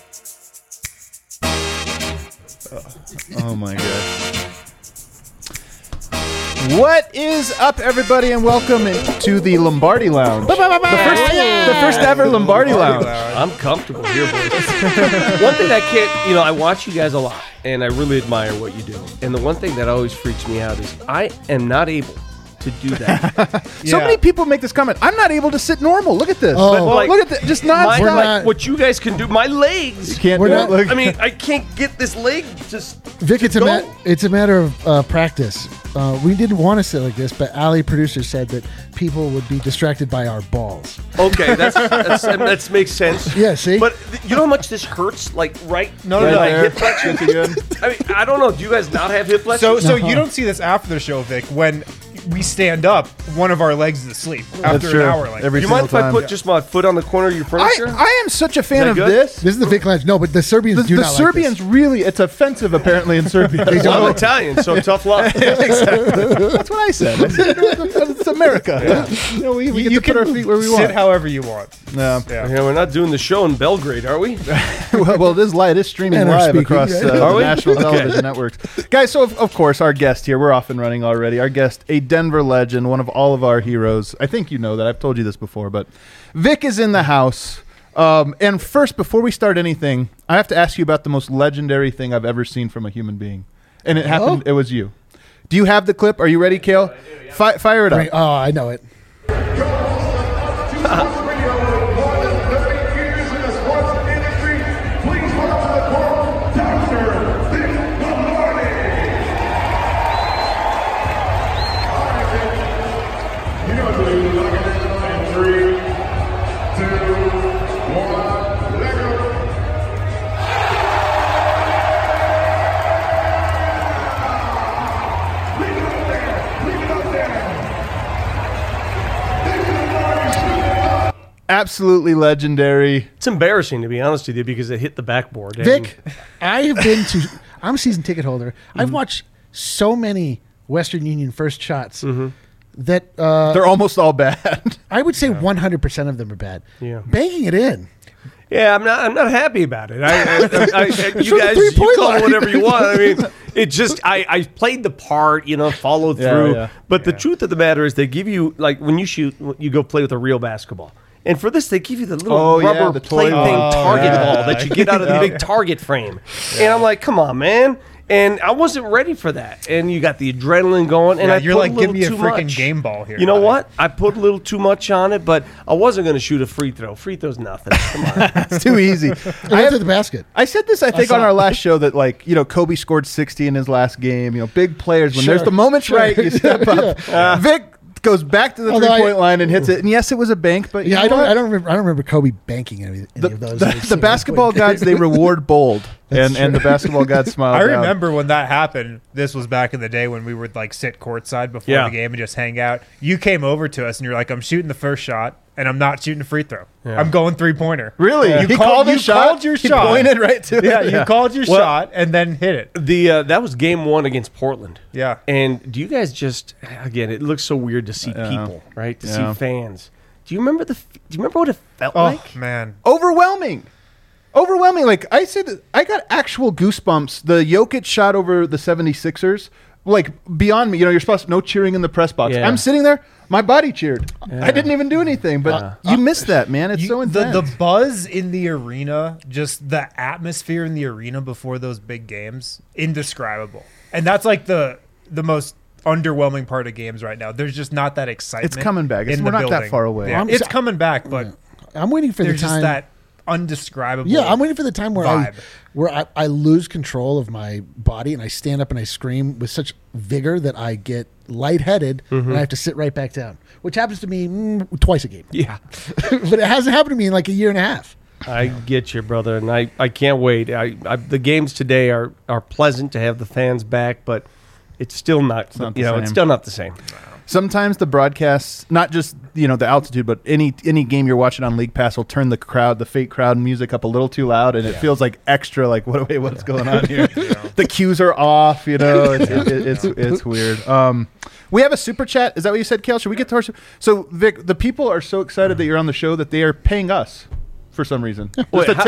Oh my god. What is up, everybody, and welcome to the Lombardi Lounge. The first ever Lombardi Lounge. I'm comfortable here, boys. One thing I can't, I watch you guys a lot, and I really admire what you do. And the one thing that always freaks me out is I am not able to do that. So many people make this comment. I'm not able to sit normal. Look at this. Oh. But, look at this. Just not. What you guys can do. My legs. You can't We're do not- it. Look. I mean, I can't get this leg just. Vic, it's go. a matter of practice. We didn't want to sit like this, but Ali, producer, said that people would be distracted by our balls. Okay, that makes sense. Yeah, see? But you know how much this hurts? Like right. No, in no, my no. hip flexion. I mean, I don't know. Do you guys not have hip flexion? So you don't see this after the show, Vic. When we stand up, one of our legs is asleep after true. an hour. Like Every Do you mind if I single put just my foot on the corner of your furniture? I am such a fan that of good? this. This is the Vic Lounge. No, but the Serbians do The not Serbians like really, it's offensive apparently in Serbia. Well, I'm Italian, so tough luck. That's what I said. It's America. We get to put our feet where we sit want. however you want. No. Yeah. We're not doing the show in Belgrade, are we? well, it is live. It is streaming And we're live speaking, across right? the Are we? national Okay. television networks. Guys, so of course, our guest here, we're off and running already. Our guest, a Denver legend, one of all of our heroes. I think you know that. I've told you this before, but Vic is in the house. And first, before we start anything, I have to ask you about the most legendary thing I've ever seen from a human being. And it happened, it was you. Do you have the clip? Are you ready, Kale? Fire it up. this. Oh, I know it. Absolutely legendary. It's embarrassing, to be honest with you, because it hit the backboard. and- Vic, I have been to. I'm a season ticket holder. I've watched so many Western Union first shots that They're almost all bad. I would say 100% of them are bad. Yeah. Banking it in. Yeah, I'm not happy about it. You the guys, you three-point call it line. whatever you want. I mean, it just, I played the part, followed Yeah, through. yeah. But the truth of the matter is, they give you, like, when you shoot, you go play with a real basketball. And for this, they give you the little Oh, yeah, rubber the toy play ball. thing target yeah. ball that you get out of the big target frame. And I'm like, come on, man. And I wasn't ready for that. And you got the adrenaline going. And Yeah, I you're put like, a little give me a too freaking much. game ball here. You know buddy. what? I put a little too much on it, but I wasn't going to shoot a free throw. Free throw's nothing. Come on. It's too easy. I went to the basket. I said this, I think, saw on our it. last show that, like, Kobe scored 60 in his last game. Big players, when Sure, there's the moment's sure. right, you step up. Vic goes back to the Although three-point line and hits it. And yes, it was a bank, but you Yeah, know what? I don't remember Kobe banking any of those. The basketball gods, they reward bold. And the basketball gods smile I down. remember when that happened. This was back in the day when we would like sit courtside before Yeah. the game and just hang out. You came over to us and you're like, "I'm shooting the first shot, and I'm not shooting a free throw. Yeah. I'm going 3-pointer." Really? You He called his shot? called your He shot. pointed right to it? Yeah, you called your Well- shot and then hit it. That was game one against Portland. Yeah. And do you guys just, again, it looks so weird to see people, right? To Yeah. see fans. Do you remember what it felt Oh like? man. Overwhelming. Like, I said, I got actual goosebumps. The Jokic shot over the 76ers, like, beyond me. You're supposed to no cheering in the press box. Yeah. I'm sitting there. My body cheered. Yeah. I didn't even do anything, but you missed that, man. It's so intense. The buzz in the arena, just the atmosphere in the arena before those big games, indescribable. And that's like the most underwhelming part of games right now. There's just not that excitement. It's coming back. in We're the not that building. far away. Yeah, I'm it's so- coming back, but I'm waiting for the there's time. just that undescribable. Yeah, I'm waiting for the time where vibe. I lose control of my body and I stand up and I scream with such vigor that I get lightheaded and I have to sit right back down, which happens to me twice a game. Yeah. But it hasn't happened to me in like a year and a half. I get you, brother, and I can't wait. The games today are pleasant to have the fans back, but it's still not, not the it's same. still not the same. Sometimes the broadcasts, not just the altitude, but any game you're watching on League Pass will turn the fake crowd music up a little too loud, and it feels like extra. Like, what's going on here? The cues are off. It's weird. We have a super chat. Is that what you said, Kale? Should we get to our? So Vic, the people are so excited that you're on the show that they are paying us for some reason. Just Wait, a tip.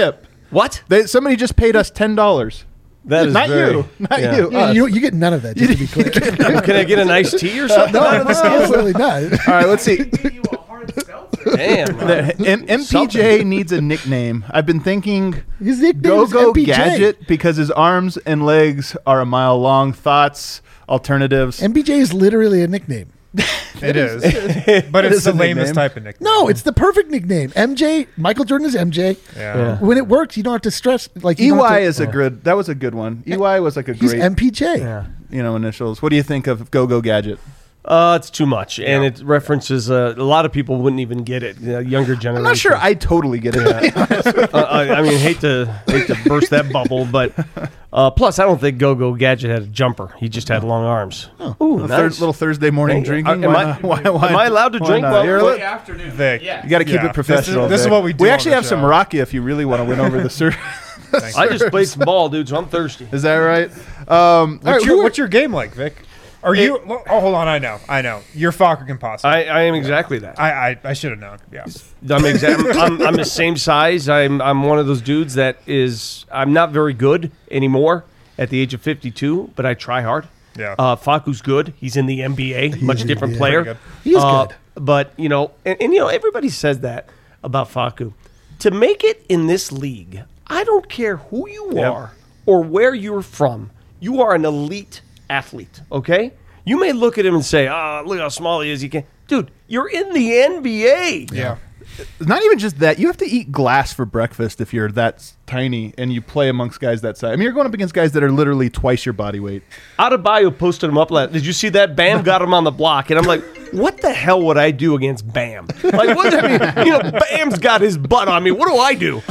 What? Somebody just paid us $10. That is Not very, you. Not yeah. you. Yeah, us. you get none of that, just to be clear. Can I get an iced tea or something? No, absolutely not. All right, let's see. Damn. MPJ needs a nickname. I've been thinking His nickname Go-Go is MPJ. Gadget because his arms and legs are a mile long. Thoughts, alternatives. MPJ is literally a nickname. It is. But It it's is the a lamest nickname. type of nickname. No, it's the perfect nickname. MJ, Michael Jordan is MJ. Yeah. When it works, you don't have to stress. Like you don't have EY to- is a good. That was a good one. EY was like a He's great, MPJ. Yeah. initials. What do you think of Go-Go Gadget? It's too much, and it references a lot of people wouldn't even get it. Younger generation. I'm not sure I totally get it. I mean, hate to burst that bubble, but plus, I don't think Go-Go Gadget had a jumper. He just had long arms. Ooh, A nice. little Thursday morning Hey, drinking. am Why I- not? Why am I allowed to why drink not? while- You're while- li- Afternoon. Vic. Yeah. You got to keep Yeah. it professional. This is Vic. what we do We on actually the have some show. Rocky if you really want to win over the surf. I just played some ball, dude, so I'm thirsty. Is that right? All right, What's your game like, Vic? Are you? Oh, hold on. I know. You're Fokker Composite. I am exactly that. I should have known. Yeah. I'm the same size. I'm one of those dudes that is. I'm not very good anymore at the age of 52, but I try hard. Yeah. Faku's good. He's in the NBA. Much different yeah. player. Pretty He is good. But and everybody says that about Faku. To make it in this league, I don't care who you are or where you're from. You are an elite athlete. Okay. You may look at him and say, look how small he is. Dude, you're in the NBA. Yeah. Not even just that. You have to eat glass for breakfast if you're that tiny and you play amongst guys that size. I mean, you're going up against guys that are literally twice your body weight. Adebayo posted him up. Did you see that? Bam got him on the block, and I'm like, what the hell would I do against Bam? Like, what? I mean, Bam's got his butt on me. What do I do?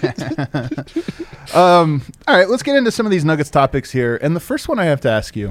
All right, let's get into some of these Nuggets topics here. And the first one I have to ask you.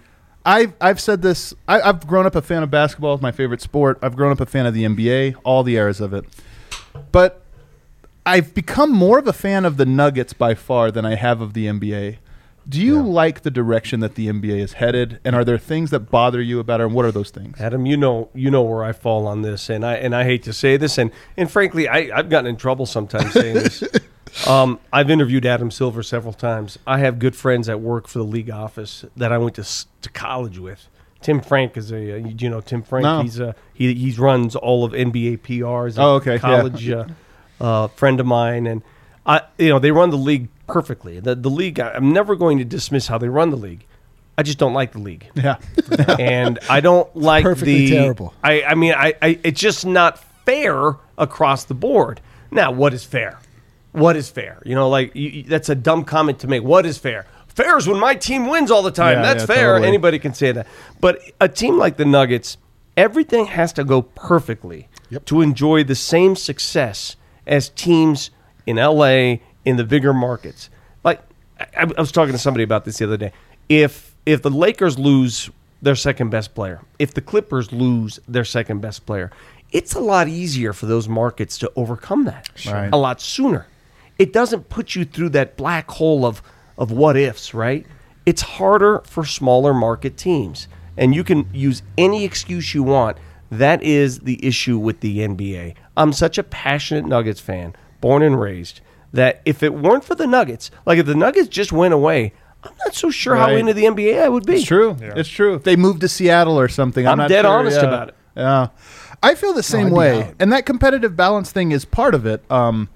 I've said this. I've grown up a fan of basketball. It's my favorite sport. I've grown up a fan of the NBA, all the eras of it. But I've become more of a fan of the Nuggets by far than I have of the NBA. Do you like the direction that the NBA is headed? And are there things that bother you about it? And what are those things? Adam, you know where I fall on this, and I hate to say this, and frankly, I've gotten in trouble sometimes saying this. I've interviewed Adam Silver several times. I have good friends that work for the league office that I went to college with. Tim Frank is Tim Frank. No. He runs all of NBA PRs. Oh, okay, College friend of mine, and they run the league perfectly. The league. I'm never going to dismiss how they run the league. I just don't like the league. Yeah. And I don't like perfectly terrible. I mean, it's just not fair across the board. Now, what is fair? What is fair? That's a dumb comment to make. What is fair? Fair is when my team wins all the time. Yeah, That's yeah, fair. totally. Anybody can say that. But a team like the Nuggets, everything has to go perfectly to enjoy the same success as teams in LA, in the bigger markets. Like, I was talking to somebody about this the other day. If the Lakers lose their second best player, if the Clippers lose their second best player, it's a lot easier for those markets to overcome that Right. a lot sooner. It doesn't put you through that black hole of what ifs, right? It's harder for smaller market teams. And you can use any excuse you want. That is the issue with the NBA. I'm such a passionate Nuggets fan, born and raised, that if it weren't for the Nuggets, like if the Nuggets just went away, I'm not so sure how Right. into the NBA I would be. It's true. It's true. If they moved to Seattle or something, I'm I'm not dead sure. honest Yeah. about it. Yeah, I feel the same I'd be way, out. and that competitive balance thing is part of it.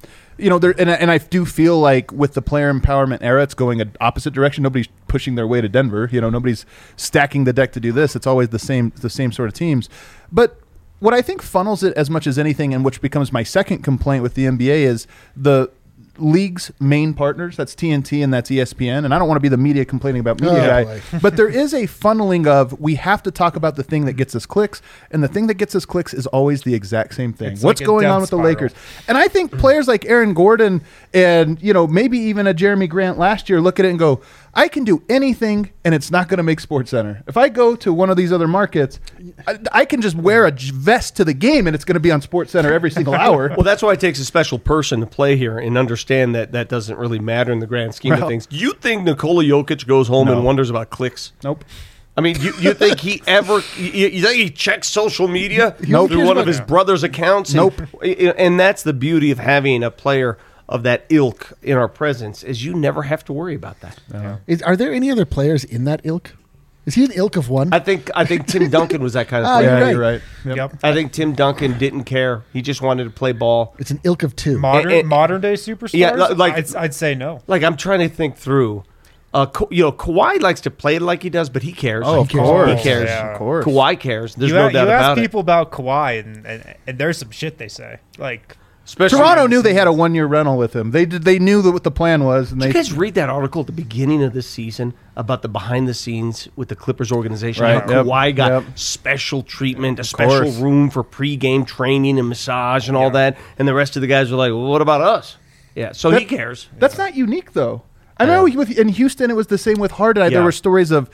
And I do feel like with the player empowerment era, it's going an opposite direction. Nobody's pushing their way to Denver. Nobody's stacking the deck to do this. It's always the same sort of teams. But what I think funnels it as much as anything, and which becomes my second complaint with the NBA, is the league's main partners. That's TNT and that's ESPN. And I don't want to be the media complaining about media Oh, guy, boy. but there is a funneling of we have to talk about the thing that gets us clicks, and the thing that gets us clicks is always the exact same thing. It's What's like a going death on with spiral. the Lakers? And I think players like Aaron Gordon and maybe even a Jeremy Grant last year look at it and go, I can do anything, and it's not going to make SportsCenter. If I go to one of these other markets, I can just wear a vest to the game, and it's going to be on SportsCenter every single hour. Well, that's why it takes a special person to play here and understand that that doesn't really matter in the grand scheme of Well- things. Do you think Nikola Jokic goes home and wonders about clicks? Nope. I mean, you think he ever? You think he checks social media Nope. through one of his brother's accounts? Nope. And that's the beauty of having a player of that ilk in our presence is you never have to worry about that. Are there any other players in that ilk? Is he an ilk of one? I think Tim Duncan was that kind of Ah, player. you're right. You're right. Yep. Yep. I think Tim Duncan didn't care. He just wanted to play ball. It's an ilk of two. Modern day superstars. Yeah, like- I'd say no. Like, I'm trying to think through. Kawhi likes to play like he does, but he cares. Oh, of cares. course. He cares. Yeah. Of course. Kawhi cares. There's You no a- doubt you ask about it. people about Kawhi, and there's some shit they say. Like, Especially Toronto knew they had a 1-year rental with him. They knew that what the plan was, and Did they you guys read that article at the beginning of this season about the behind the scenes with the Clippers organization? Right, How yep, Kawhi got yep. special treatment, a special course. room for pregame training and massage and all that, and the rest of the guys were like, "Well, what about us?" Yeah, so he cares. That's not unique, though. I know in Houston it was the same with Harden. Yeah. There were stories of,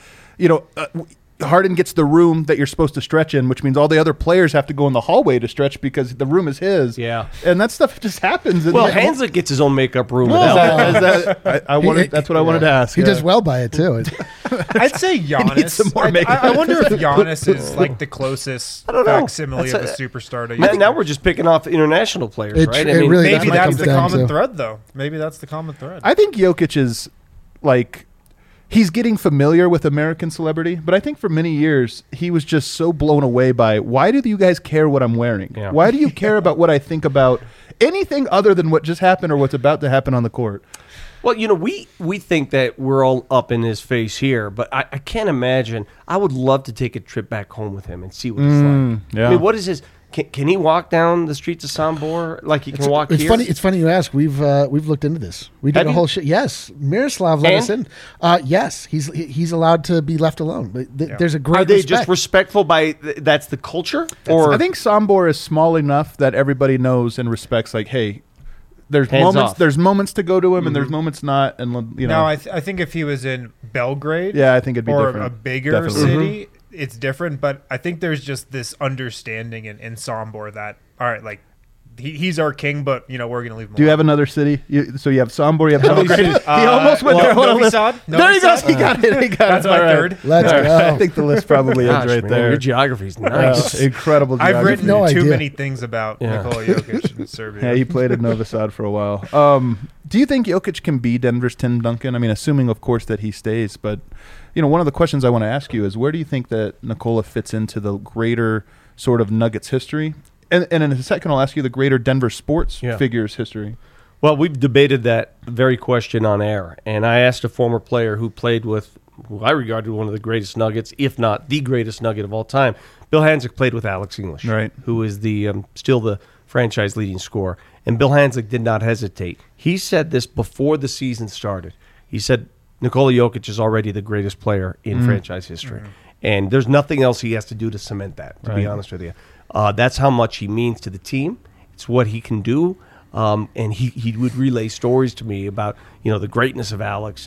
Harden gets the room that you're supposed to stretch in, which means all the other players have to go in the hallway to stretch because the room is his. Yeah. And that stuff just happens. Well, Hanslick gets his own makeup room. Well, without- that's what I wanted to ask. He yeah. does well by it too. I'd say Giannis. needs some more I makeup. wonder if Giannis is like the closest don't know. facsimile That's of a superstar to now, you. now we're just picking off international players, It- right? it really- Maybe what it that's comes the down common to. thread, though. Maybe that's the common thread. I think Jokic is like he's getting familiar with American celebrity, but I think for many years he was just so blown away by why do you guys care what I'm wearing? Yeah. Why do you care about what I think about anything other than what just happened or what's about to happen on the court? Well, we think that we're all up in his face here, but I can't imagine. I would love to take a trip back home with him and see what it's like. yeah. I mean, what is his? Can he walk down the streets of Sambor like he can walk It's here? funny. It's funny you ask. We've looked into this. We did Have a you? whole shit. Yes, Miroslav let us in. Yes, he's allowed to be left alone. But there's a great. Are they respect. just respectful by that's the culture? Or I think Sombor is small enough that everybody knows and respects. Like, hey, there's Hands moments. off. There's moments to go to him, and there's moments not. And No, I think if he was in Belgrade, yeah, I think it'd be or different. a bigger Definitely. city, it's different. But I think there's just this understanding in Sombor that all right, like he's our king, but we're gonna leave him. Do you have alone. another city? So you have Sombor, you have Belgrade. He cities? almost went there. Novi Hold on, Sad? there Novi he goes. Sad? He got it. He got That's it. my All right. third. Let's All right. go. I think the list probably Gosh, ends right man, there. your geography's nice. Incredible. I've geography. written no too idea. many things about Yeah. Nikola Jokic in Serbia. Yeah, he played at Novi Sad for a while. Do you think Jokic can be Denver's Tim Duncan? I mean, assuming, of course, that he stays. But, one of the questions I want to ask you is where do you think that Nikola fits into the greater sort of Nuggets history? And in a second, I'll ask you the greater Denver sports Yeah. figures history. Well, we've debated that very question on air, and I asked a former player who played with who I regarded one of the greatest Nuggets, if not the greatest Nugget of all time. Bill Hansick played with Alex English, Right. who is the still the franchise leading scorer. And Bill Hansick did not hesitate. He said this before the season started. He said Nikola Jokic is already the greatest player in franchise history, and there's nothing else he has to do to cement that. To be honest with you, that's how much he means to the team. It's what he can do. And he would relay stories to me about the greatness of Alex.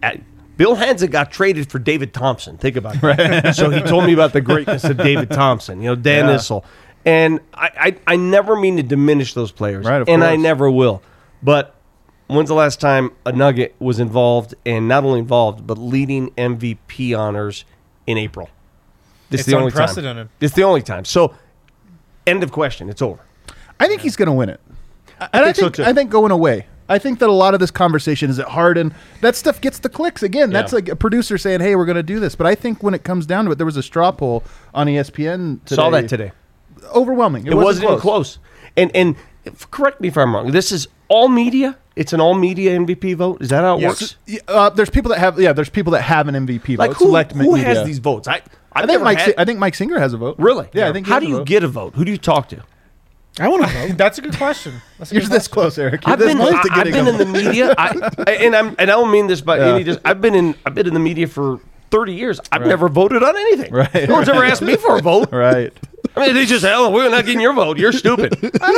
Bill Hansick got traded for David Thompson. Think about that. So he told me about the greatness of David Thompson. Dan Issel, and I never mean to diminish those players, Right, of and I course. never will. But when's the last time a Nugget was involved, and not only involved, but leading MVP honors in April? This It's is the only time. unprecedented. It's the only time. So, end of question. It's over. I think he's going to win it. And think so, too. I think going away. I think that a lot of this conversation is at Harden. That stuff gets the clicks. Again, that's Yeah. like a producer saying, hey, we're going to do this. But I think when it comes down to it, there was a straw poll on ESPN today. Saw that today. Overwhelming. It wasn't even close. And correct me if I'm wrong. This is all media. It's an all media MVP vote. Is that how it Yes. works? There's people that have there's people that have an MVP Like vote. who Select has media. these votes? I I've think never had- I think Mike Singer has a vote. Really? Yeah, I think. How do you get a vote? Who do you talk to? I want to vote. That's a good question. That's a You're good this question. close, Eric. You're I've this been, close to I've getting been a in the vote. media, and I don't mean this by Yeah. any. I've been in the media for 30 years. I've never voted on anything. Right. No one's ever asked me for a vote. Right. I mean, they just we're not getting your vote. You're stupid.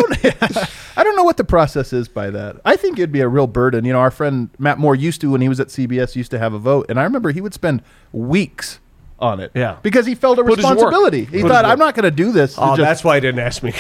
I don't know what the process is by that. I think it'd be a real burden. Our friend Matt Moore used to, when he was at CBS, used to have a vote, and I remember he would spend weeks on it. Yeah. Because he felt a Put his work. responsibility. He Put his thought, work. I'm not going to do this. Oh, to just- that's why he didn't ask me.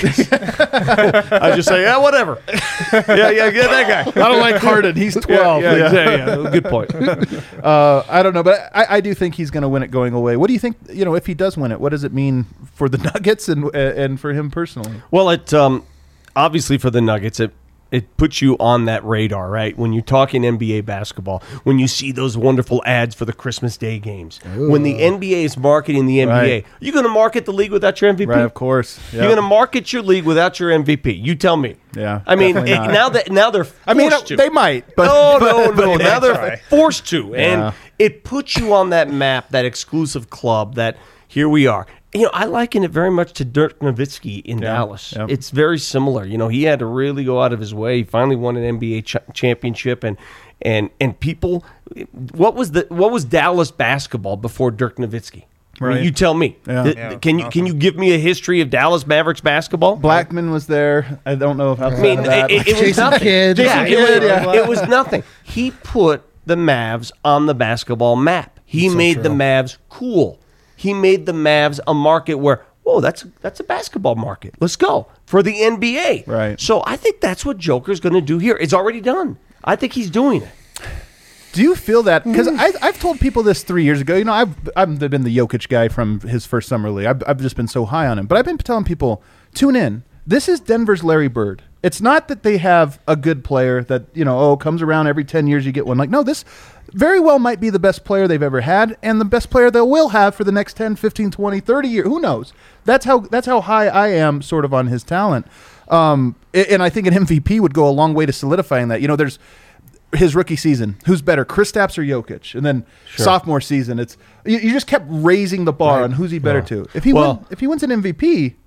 I just say, yeah, whatever. Yeah, get that guy. I don't like Harden. He's 12. Yeah, exactly. Yeah, good point. I don't know, but I do think he's going to win it going away. What do you think, if he does win it, what does it mean for the Nuggets and for him personally? Well, it obviously for the Nuggets, it puts you on that radar, right? When you're talking NBA basketball, when you see those wonderful ads for the Christmas Day games, when the NBA is marketing the NBA, Right. you're going to market the league without your MVP? Right, of course. Yep. You're going to market your league without your MVP. You tell me. Yeah, I mean, definitely not. now they're forced I mean, to. they might, but No. they Now they're try. forced to, and Yeah. it puts you on that map, that exclusive club. That here we are. I liken it very much to Dirk Nowitzki in Dallas. yeah. It's very similar. He had to really go out of his way. He finally won an NBA championship, and people. What was Dallas basketball before Dirk Nowitzki? I mean, Right. you tell me. Yeah. Yeah, Can you give me a history of Dallas Mavericks basketball? Blackman was there. I don't know if outside I mean, of that. it was Jason nothing. Kidd. Yeah, Jason Kidd, yeah. it was nothing. He put the Mavs on the basketball map. He made the true. Mavs cool. He made the Mavs a market where, whoa, that's a basketball market. Let's go for the NBA. Right. So I think that's what Joker's going to do here. It's already done. I think he's doing it. Do you feel that? Because I've told people this 3 years ago. I've been the Jokic guy from his first summer league. I've just been so high on him. But I've been telling people, tune in. This is Denver's Larry Bird. It's not that they have a good player that, comes around every 10 years you get one. Like, no, this very well might be the best player they've ever had and the best player they will have for the next 10, 15, 20, 30 years. Who knows? That's how high I am sort of on his talent. And I think an MVP would go a long way to solidifying that. There's his rookie season. Who's better, Kristaps or Jokic? And then sophomore season, it's you just kept raising the bar on who's he better to. If he wins an MVP,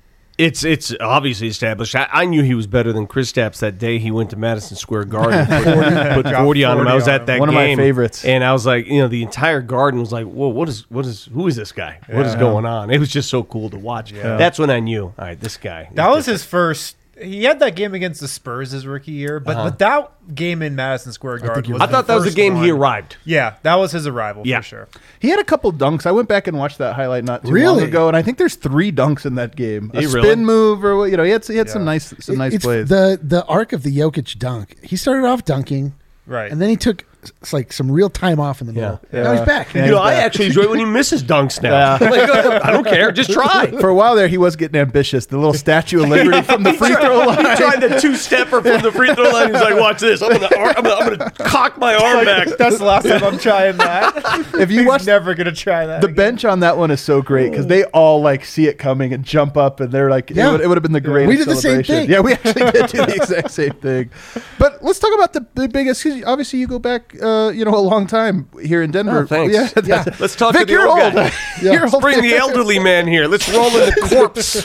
It's obviously established. I knew he was better than Kristaps that day he went to Madison Square Garden. Put 40 on him. I was at that One of game. my favorites. And I was like, the entire garden was like, whoa, who is this guy? What is going on? It was just so cool to watch. That's when I knew, all right, this guy. That was his first. He had that game against the Spurs his rookie year, but that game in Madison Square Garden was I thought that was the first game he one. arrived. Yeah, that was his arrival Yeah. for sure. he had a couple dunks. I went back and watched that highlight not too long Really? ago, and I think there's 3 dunks in that game. A He spin really? move, or he had some nice It's plays. the arc of the Jokic dunk. He started off dunking, Right. and then he took some real time off in the middle. Yeah. Now he's back. Yeah. I actually enjoy when he misses dunks now. Like, I don't care. Just try. For a while there, he was getting ambitious. The little Statue of Liberty from the free throw line. He tried the two-stepper from the free throw line. He's like, watch this. I'm gonna cock my arm back. That's the last time I'm trying that. If you He's watch never gonna try that. the again. bench on that one is so great because they all see it coming and jump up, and they're like, Yeah. it would have been the greatest. We did the same celebration. thing. Yeah, we actually did do the exact same thing. But let's talk about the biggest. 'Cause obviously, you go back, a long time here in Denver. Oh, thanks. Yeah, Yeah. Let's talk Vic, to the you're old old. guy. You're old. Bring the elderly man here. Let's roll in the corpse.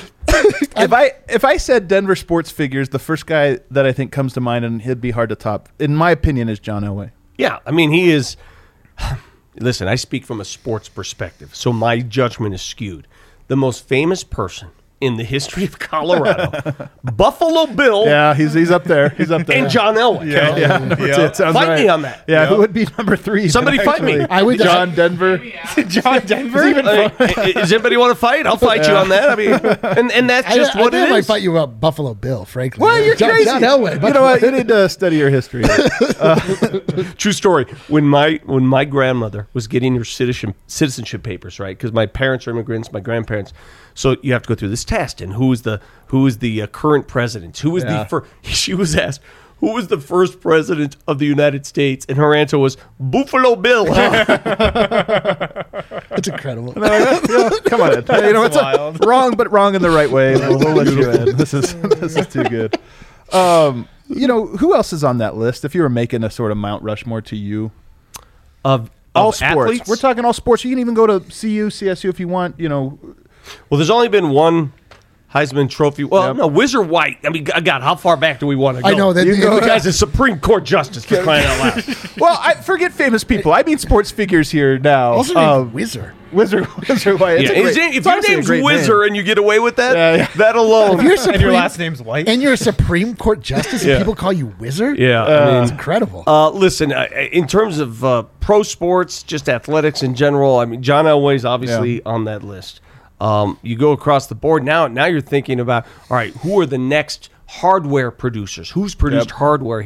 If I said Denver sports figures, the first guy that I think comes to mind, and he'd be hard to top, in my opinion, is John Elway. Yeah, I mean, he is. Listen, I speak from a sports perspective, so my judgment is skewed. The most famous person in the history of Colorado, Buffalo Bill, Yeah, he's up there. He's up there. and John Elway. Yeah, that's it. Sounds Fight right. me on that. Yeah, who would be number 3? Somebody fight me. I would- John Denver. John Denver. Hey, does anybody want to fight? I'll fight you on that. I mean, and that's just what I it think I might is. fight you about Buffalo Bill, frankly. Well, you're John, crazy. John Elway. You know what? You need to study your history. True story. When my grandmother was getting her citizenship papers, right? Because my parents are immigrants, my grandparents. So you have to go through this test, and who is the current president? Who is Yeah. the first? She was asked, who was the first president of the United States? And her answer was Buffalo Bill. That's incredible. Come on, you know it's wild. wrong, but wrong in the right way. We'll let you in. This is too good. Who else is on that list? If you were making a sort of Mount Rushmore to you, of all sports. athletes? We're talking all sports. You can even go to CU, CSU if you want. Well, there's only been one Heisman Trophy. Well, Yep. no, Whizzer White. I mean, God, how far back do we want to go? I know that. The guy's a Supreme Court justice for crying out loud. Well, I forget famous people. I mean sports figures here now. Also named Whizzer. Whizzer White. It's Yeah, a great- if it's your honestly a name's great Whizzer name. and you get away with that, Yeah. that alone. If you're And your Supreme- last name's White. And you're a Supreme Court justice, and people call you Whizzer. Yeah, It's incredible. listen, in terms of pro sports, just athletics in general, I mean, John Elway's obviously on that list. You go across the board now you're thinking about, all right, who are the next hardware producers? Who's produced hardware here?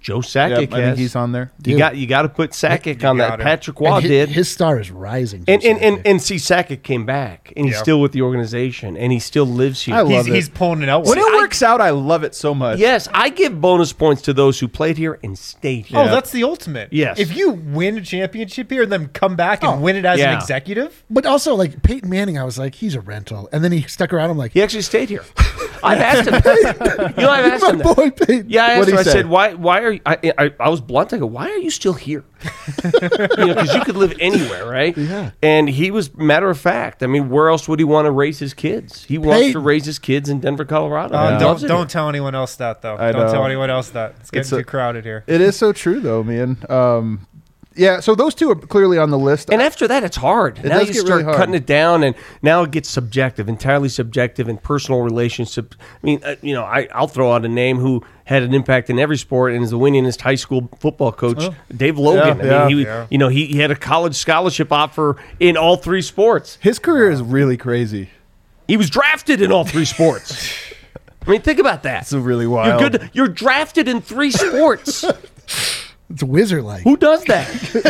Joe Sakic Yep, I has. think he's on there. You got to put Sakic on that. got him. Patrick Waugh And did. his star is rising. And see, Sakic came back, and he's Yeah. still with the organization, and he still lives here. I love He's pulling it out. When it works out, I love it so much. Yes, I give bonus points to those who played here and stayed here. Oh, that's the ultimate. Yes. If you win a championship here and then come back and win it as yeah. an executive, But also, like Peyton Manning, I was like, he's a rental, and then he stuck around. I'm like, He actually stayed here. I've asked him. I've asked him my that. boy Peyton. Yeah, I asked What'd him. he I say? said, "Why are you?" I was blunt. I go, "Why are you still here?" Because you could live anywhere, right? Yeah. And he was matter of fact. I mean, where else would he want to raise his kids? He wants to Peyton. raise his kids in Denver, Colorado. He loves it don't here. tell anyone else that though. I Don't know. tell anyone else that. It's getting It's a- too crowded here. It is so true, though, man. Yeah, so those two are clearly on the list. And after that, it's hard. Now does you get start really hard. cutting it down, and now it gets subjective, entirely subjective, and personal relationships. I mean, I'll throw out a name who had an impact in every sport and is the winningest high school football coach, Dave Logan. Yeah, I mean, yeah. he had a college scholarship offer in all three sports. His career is really crazy. He was drafted in all three sports. I mean, think about that. It's really wild. You're good. You're drafted in three sports. It's wizard-like. Who does that?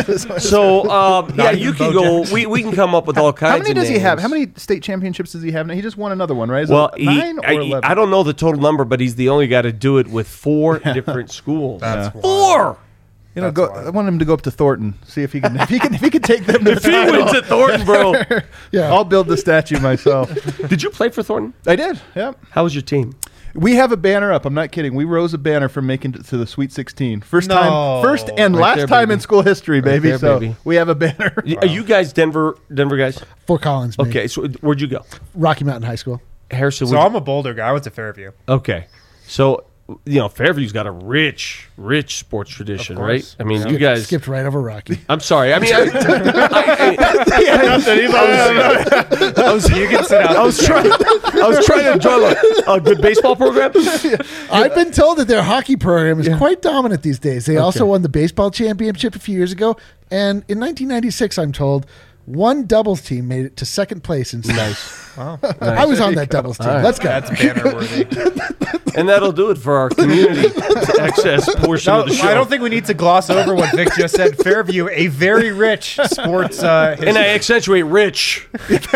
So yeah, even you can Bo go. We can come up with all kinds. How many of does he have? names. How many state championships does he have? He just won another one, right? Is Well, it 9 or 11? I don't know the total number, but he's the only guy to do it with 4 different schools. That's Four. You know, That's go. wild. I want him to go up to Thornton, see if he can. If he can take them to If he wins at Thornton, bro. Yeah. I'll build the statue myself. Did you play for Thornton? I did. Yep. How was your team? We have a banner up. I'm not kidding. We rose a banner from making it to the Sweet 16. First No. time, first and Right last there, time baby. in school history, baby. there, so baby. we have a banner. Are you guys Denver guys? Fort Collins. me. Okay, so where'd you go? Rocky Mountain High School. Harrison. So I'm a Boulder guy. I went to Fairview. Okay, so Fairview's got a rich sports tradition, right? I mean, you guys. Skipped right over Rocky. I'm sorry. I mean, I You can sit out. was trying to enjoy a good baseball program. I've been told that their hockey program is quite dominant these days. They also won the baseball championship a few years ago, and in 1996, I'm told, one doubles team made it to second place in state. Wow. I was on that doubles team. All right. Let's go. That's banner worthy. And that'll do it for our community access portion No, of the show. I don't think we need to gloss over what Vic just said. Fairview, a very rich sports history. and I accentuate rich.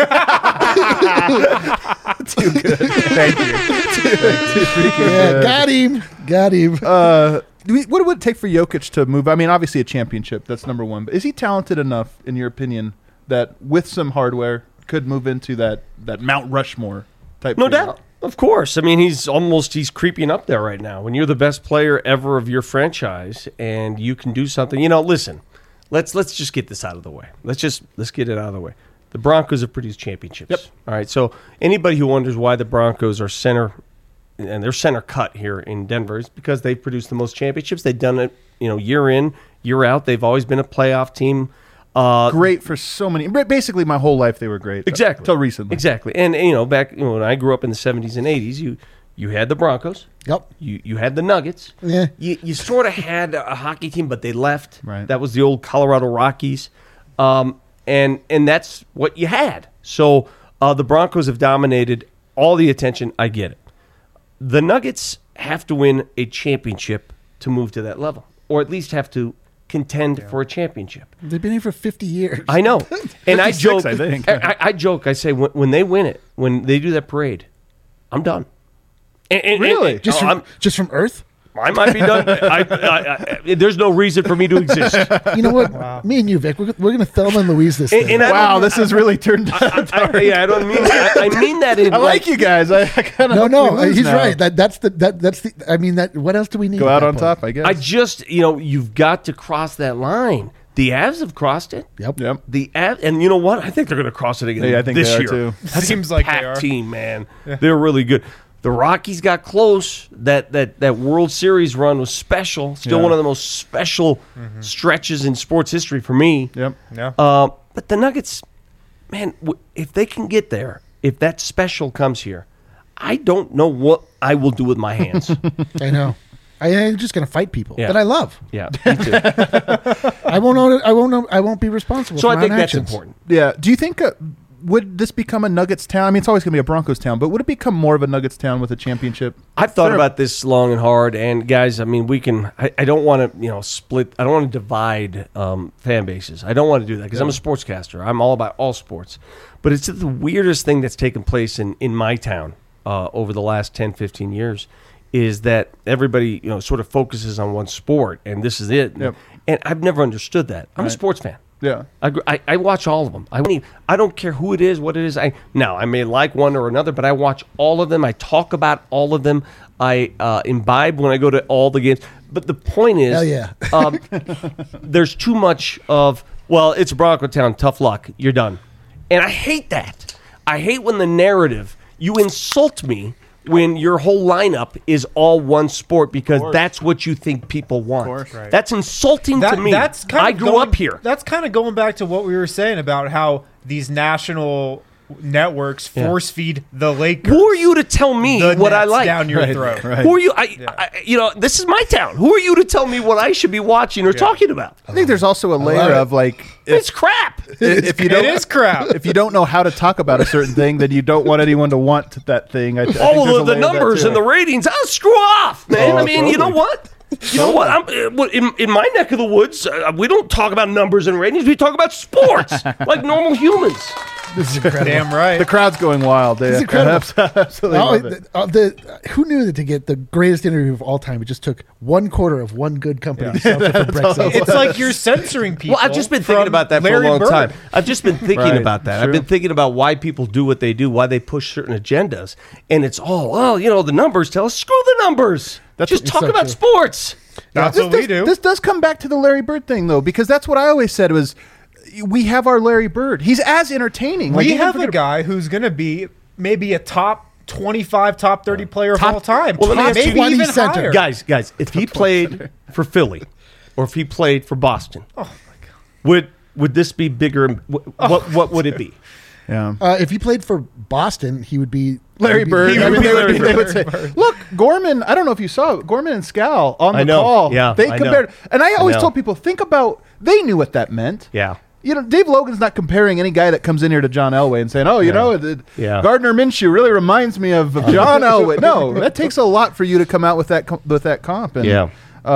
Too good. Thank you. Too freaking Yeah, good. got him. What would it take for Jokic to move? I mean, obviously a championship. That's number one. But is he talented enough, in your opinion, that with some hardware could move into that Mount Rushmore type? No figure? doubt. Of course. I mean, he's creeping up there right now. When you're the best player ever of your franchise and you can do something, listen, let's just get this out of the way. Let's get it out of the way. The Broncos have produced championships. Yep. All right. So anybody who wonders why the Broncos are center and they're center cut here in Denver is because they've produced the most championships. They've done it, year in, year out. They've always been a playoff team. Great for so many. Basically, my whole life they were great. Exactly. Till recently. Exactly. And back when I grew up in the 70s and 80s, you had the Broncos. Yep. You had the Nuggets. Yeah. You sort of had a hockey team, but they left. Right. That was the old Colorado Rockies. And that's what you had. So the Broncos have dominated all the attention. I get it. The Nuggets have to win a championship to move to that level, or at least have to contend for a championship. They've been here for 50 years. I know. And I 56, joke. I think. I joke. I say when they win it, when they do that parade, I'm done. Really? Just from Earth? I might be done. There's no reason for me to exist. You know what? Me and you, Vic, we're going to Thelma and Louise this thing. And I Wow, don't- this has really turned out. I don't mean. I mean that in I like you guys. I kind of no, he's right. That's the. I mean, what else do we need? Go at out that on point? top, I guess. I just you've got to cross that line. The Avs have crossed it. Yep. Yep. The Avs, and you know what? I think they're going to cross it again Yeah, I think this they are year. too. That's Seems a like they packed are. team, man. They're really good. The Rockies got close. That World Series run was special. Still Yeah. one of the most special stretches in sports history for me. Yep. Yeah. But the Nuggets, man, if they can get there, if that special comes here, I don't know what I will do with my hands. I know. I'm just going to fight people Yeah. that I love. Yeah, me too. I won't be responsible. So for I my think own that's actions. important. Yeah. Do you think would this become a Nuggets town? I mean, it's always going to be a Broncos town, but would it become more of a Nuggets town with a championship? I've thought about this long and hard, and guys, I mean, we can. I don't want to, split. I don't want to divide fan bases. I don't want to do that because I'm a sportscaster. I'm all about all sports. But it's the weirdest thing that's taken place in my town over the last 10, 15 years is that everybody, sort of focuses on one sport, and this is it. Yep. And I've never understood that. I'm a sports fan. Yeah. I watch all of them. I don't care who it is, what it is. I may like one or another, but I watch all of them. I talk about all of them. I imbibe when I go to all the games. But the point is, Hell yeah. there's too much of, well, it's Bronco Town, tough luck, you're done. And I hate that. I hate when the narrative, you insult me when your whole lineup is all one sport because that's what you think people want. Right. That's insulting to me. I grew up here. That's kind of going back to what we were saying about how these national networks force feed the Lakers. Who are you to tell me the what I Nets like? down your throat? Right. Who are you? This is my town. Who are you to tell me what I should be watching or talking about? I think there's also a layer of like It's crap. if you don't, It is crap. If you don't know how to talk about a certain thing, then you don't want anyone to want that thing. I think there's All a of the layer of that numbers too. and the ratings. Oh, screw off, man. I mean, you know what? You know what? In my neck of the woods, we don't talk about numbers and ratings. We talk about sports like normal humans. This is incredible. Damn right. The crowd's going wild. They It's incredible. absolutely love it. Who knew that to get the greatest interview of all time, it just took 1/4 of one good company to sell it for Brexit. It's like you're censoring people. Well, I've just been thinking from about that for a Larry long Bird. time. I've just been thinking Right. about that. True. I've been thinking about why people do what they do, why they push certain agendas. And it's the numbers tell us, screw the numbers. Just talk so about true. sports. That's what we do. This does come back to the Larry Bird thing, though, because that's what I always said was we have our Larry Bird. He's as entertaining. We even have for a good- guy who's going to be maybe a top 25, top 30 player of all time. Well, let me ask you- maybe 20 even center. higher. Guys, if he played for Philly or if he played for Boston, would this be bigger? What would it be? Yeah. If he played for Boston, he would be Larry Bird. he I would mean, be Larry they would Bird. say, look, Gorman, I don't know if you saw it, Gorman and Scal on I the know. call. Yeah, they I know. compared. And I always know. told people, think about, they knew what that meant. Yeah. Dave Logan's not comparing any guy that comes in here to John Elway and saying, Yeah. Gardner Minshew really reminds me of John Elway. No, that takes a lot for you to come out with that comp. And, Yeah.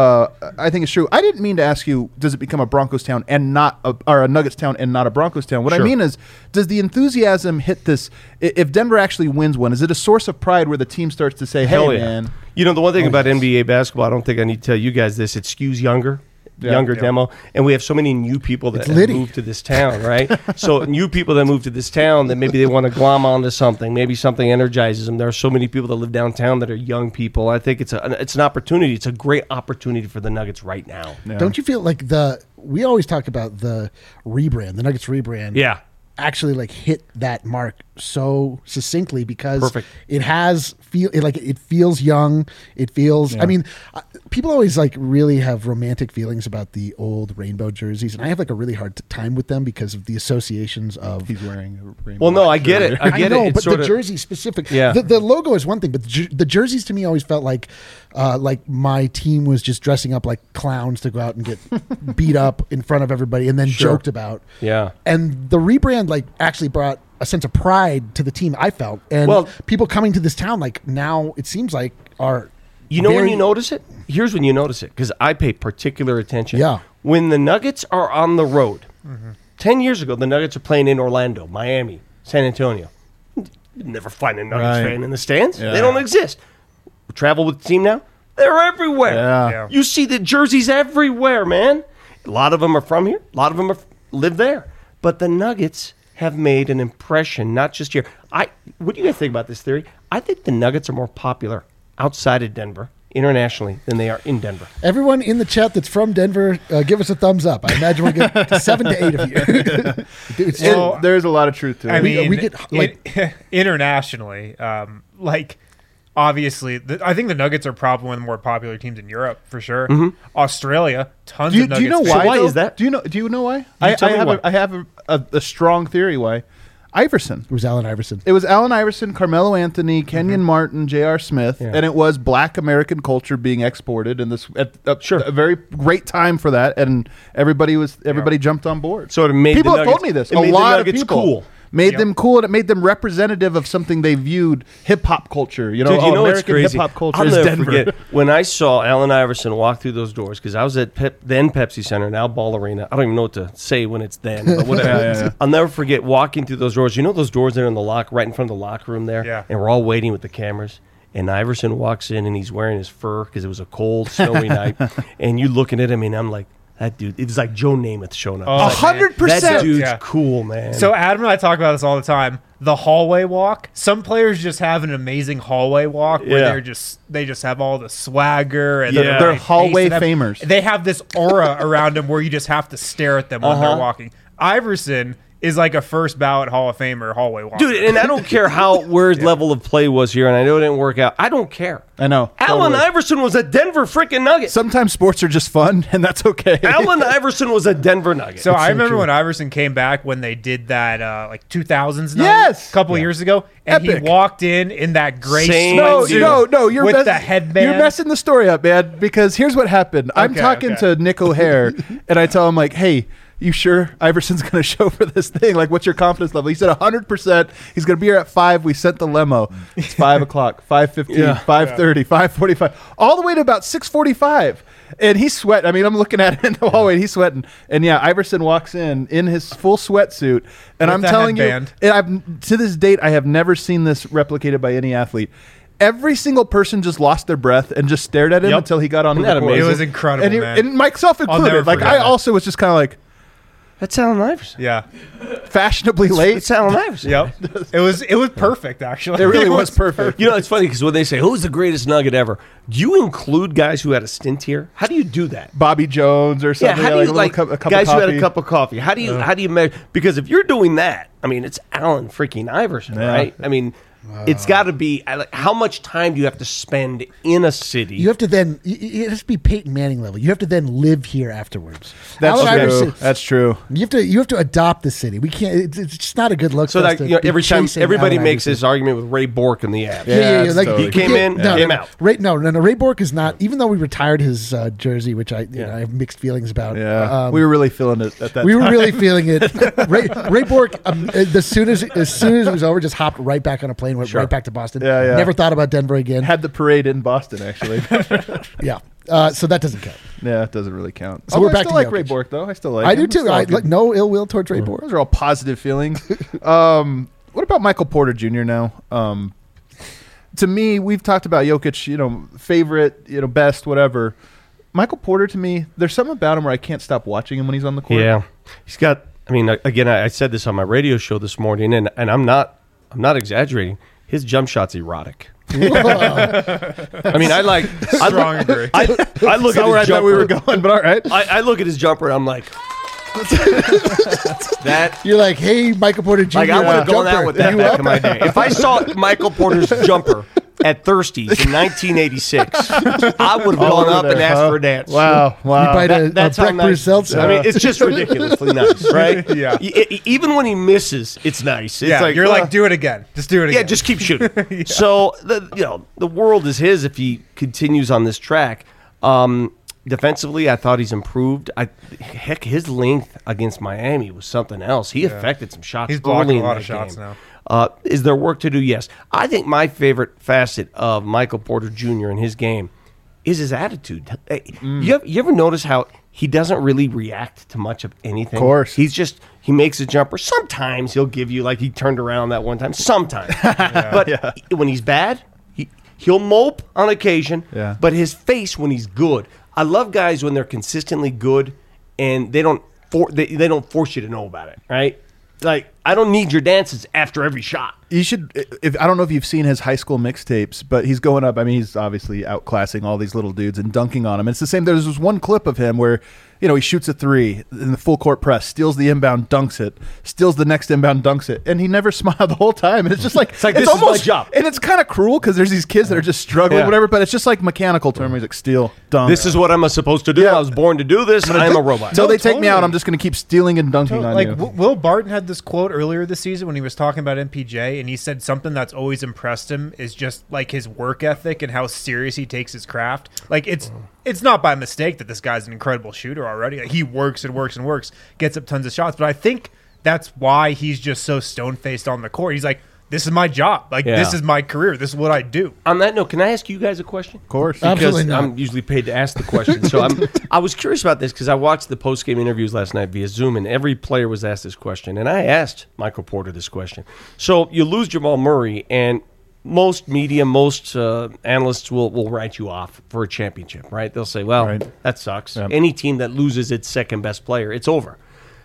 I think it's true. I didn't mean to ask you, does it become a Broncos town and not or a Nuggets town and not a Broncos town? What I Sure. mean is, does the enthusiasm hit this? If Denver actually wins one, is it a source of pride where the team starts to say, Hell hey, yeah. man. The one thing about NBA basketball, I don't think I need to tell you guys this, it skews younger Yeah. demo. And we have so many new people that It's have litty. moved to this town, right? So new people that move to this town that maybe they want to glom onto something. Maybe something energizes them. There are so many people that live downtown that are young people. I think it's an opportunity. It's a great opportunity for the Nuggets right now. Yeah. Don't you feel like we always talk about the rebrand, the Nuggets rebrand. Yeah. Actually like hit that mark so succinctly because Perfect. it feels young. It feels, I mean, people always like really have romantic feelings about the old rainbow jerseys. And I have like a really hard time with them because of the associations of, He's wearing a rainbow. Well, no, I get it. I get know, it. It's but sort the of, jersey specific, Yeah. the logo is one thing, but the jerseys to me always felt like my team was just dressing up like clowns to go out and get beat up in front of everybody and then joked about. Yeah. And the rebrand like actually brought a sense of pride to the team, I felt. And Well- people coming to this town like now it seems like are when very- you notice it? Here's when you notice it, because I pay particular attention. Yeah. When the Nuggets are on the road, 10 years ago, the Nuggets are playing in Orlando, Miami, San Antonio. You'd never find a Nuggets Right. fan in the stands. Yeah. They don't exist. Travel with the team now? They're everywhere. Yeah. You see the jerseys everywhere, man. A lot of them are from here. A lot of them live there. But the Nuggets have made an impression, not just here. What do you guys think about this theory? I think the Nuggets are more popular outside of Denver, internationally, than they are in Denver. everyone in the chat that's from Denver, give us a thumbs up. I imagine we get 7 to 8 of you. Dude, it's Well, There's a lot of truth to it. I mean, we get, like- internationally, obviously, I think the Nuggets are probably one of the more popular teams in Europe for sure. Australia, tons of Nuggets. do you know fans. why? Why though? is that? Do you know why? tell me why. I have a strong theory why. Iverson. it was Allen Iverson. It was Allen Iverson, Carmelo Anthony, Kenyon Martin, J.R. Smith, Yeah. and it was Black American culture being exported, and this Sure. a very great time for that, and everybody jumped on board. So it made people the have Nuggets, told me this. It A made lot the of Nuggets people. cool. made them cool, and it made them representative of something they viewed hip hop culture. You know, Dude, you know what's American crazy? hip hop culture I'll is never Denver. forget when I saw Allen Iverson walk through those doors, because I was at then Pepsi Center, now Ball Arena. I don't even know what to say when it's then, but whatever. Yeah. I'll never forget walking through those doors. You know those doors that are in the right in front of the locker room there? Yeah. And we're all waiting with the cameras. And Iverson walks in, and he's wearing his fur because it was a cold, snowy night. And you looking at him, and I'm like, that dude, it was like Joe Namath showing up. Oh, It's like, 100%. that dude's Yeah. cool, man. So Adam and I talk about this all the time. The hallway walk. Some players just have an amazing hallway walk where Yeah. they just have all the swagger and Yeah. They're pace hallway and famers. They have this aura around them where you just have to stare at them when Uh-huh. they're walking. Iverson is like a first ballot Hall of Famer hallway walker. Dude, and I don't care where his level of play was here, and I know it didn't work out. I don't care. I know. Allen Totally. Iverson was a Denver freaking Nugget. Sometimes sports are just fun, and that's okay. Allen Iverson was a Denver Nugget. So I remember when Iverson came back when they did that like 2000s night Yes! a couple years ago, and Epic. he walked in that gray Same sweatsuit No, you're with mess- the headband. You're messing the story up, man. Because here's what happened. I'm Okay, talking okay. to Nick O'Hare, and I tell him like, "Hey, you sure Iverson's going to show for this thing? Like, what's your confidence level?" He said 100%. He's going to be here at 5. We sent the lemo. It's 5 o'clock, 5:15, Yeah. 5:30, 5:45, all the way to about 6:45. And he's sweating. I mean, I'm looking at him in the hallway, and he's sweating. And yeah, Iverson walks in his full sweatsuit, and With I'm the telling headband. you, and I've to this date, I have never seen this replicated by any athlete. Every single person just lost their breath and just stared at him Yep. until he got on Isn't the that court. amazing? It was incredible, and, man. and myself never included. Like forget I that. also was just kind of like That's Allen Iverson. Yeah. fashionably late. It's Allen Iverson. Yep. It was perfect actually. It really was perfect. You know, it's funny because when they say, who's the greatest Nugget ever? Do you include guys who had a stint here? How do you do that? Bobby Jones or Yeah, something. how do like you a little like cup guys of who had coffee. a cup of coffee? How do you measure? Because if you're doing that, I mean, it's Allen freaking Iverson, Yeah. right? I mean, it's got to be. How much time do you have to spend in a city? You have to then. It has to be Peyton Manning level. You have to then live here afterwards. That's Allen true. Iverson- That's true. You have to adopt the city. We can't. It's just not a good look. so for us like to you know, be every time chasing everybody Allen makes Iverson. this argument with Ray Bork in the abs. Yeah. Like totally- He came in, came out. Ray Bork is not. Even though we retired his jersey, which I I have mixed feelings about. Yeah, we were really feeling it at that We time. were really feeling it. Ray Bork, as soon as it was over, just hopped right back on a plane, went right back to Boston. Yeah. Never thought about Denver again. Had the parade in Boston, actually. Yeah. So that doesn't count. Yeah, it doesn't really count. So we're I back still to like Jokic. Ray Bork, though. I still like I him. do too. Still like him. No ill will towards Ray Bork. Those are all positive feelings. What about Michael Porter Jr. now? To me, we've talked about Jokic, favorite, best, whatever. Michael Porter, to me, there's something about him where I can't stop watching him when he's on the court. Yeah, he's got. I mean, again, I said this on my radio show this morning, and I'm not exaggerating. His jump shot's erotic. I mean, I Strong agree. look at That's not his where I thought jumper. we were going, but all right. I look at his jumper and I'm like, that. You're like, hey, Michael Porter Jr. Like I would have gone jumper. out with that You back up? in my day. If I saw Michael Porter's jumper at Thirsties in 1986, I would have All gone over up and there, asked huh? for a dance. Wow. You bite a That's how Breck nice. Bruce Seltzer. I mean, it's just ridiculously nice, right? Yeah. Even when he misses, it's nice. It's Yeah, like you're like, do it again. Just do it again. yeah, just keep shooting. So the world is his if he continues on this track. Defensively, I thought he's improved. Heck, his length against Miami was something else. He affected some shots. He's blocking early a in lot that of shots game. now. Is there work to do? Yes. I think my favorite facet of Michael Porter Jr. in his game is his attitude. Hey, you ever notice how he doesn't really react to much of anything? Of course. He makes a jumper. Sometimes he'll give you, like he turned around that one time. Sometimes. But when he's bad, he'll mope on occasion. Yeah. But his face when he's good. I love guys when they're consistently good and they don't force you to know about it, right? Like, I don't need your dances after every shot. You should. I don't know if you've seen his high school mixtapes, but he's going up. I mean, he's obviously outclassing all these little dudes and dunking on them. It's the same. There's this one clip of him where, he shoots a three in the full court press, steals the inbound, dunks it, steals the next inbound, dunks it, and he never smiled the whole time. And it's just like this is my job. and it's kind of cruel because there's these kids that are just struggling, Yeah. whatever. But it's just like mechanical to him. He's like steal, dunk. This is what I'm supposed to do. Yeah. I was born to do this. I'm a robot. Until they take me out, totally. I'm just going to keep stealing and dunking on Like you. Will Barton had this quote earlier this season when he was talking about MPJ, and he said something that's always impressed him is just like his work ethic and how serious he takes his craft. Like it's not by mistake that this guy's an incredible shooter already. Like, he works and works and works, gets up tons of shots. But I think that's why he's just so stone-faced on the court. He's like, this is my job. Like, this is my career. This is what I do. On that note, can I ask you guys a question? Of course. Because Absolutely not. I'm usually paid to ask the question. So I was curious about this because I watched the post-game interviews last night via Zoom, and every player was asked this question. And I asked Michael Porter this question. So you lose Jamal Murray, and most media, most analysts will write you off for a championship, right? They'll say, well, that sucks. Yep. Any team that loses its second-best player, it's over.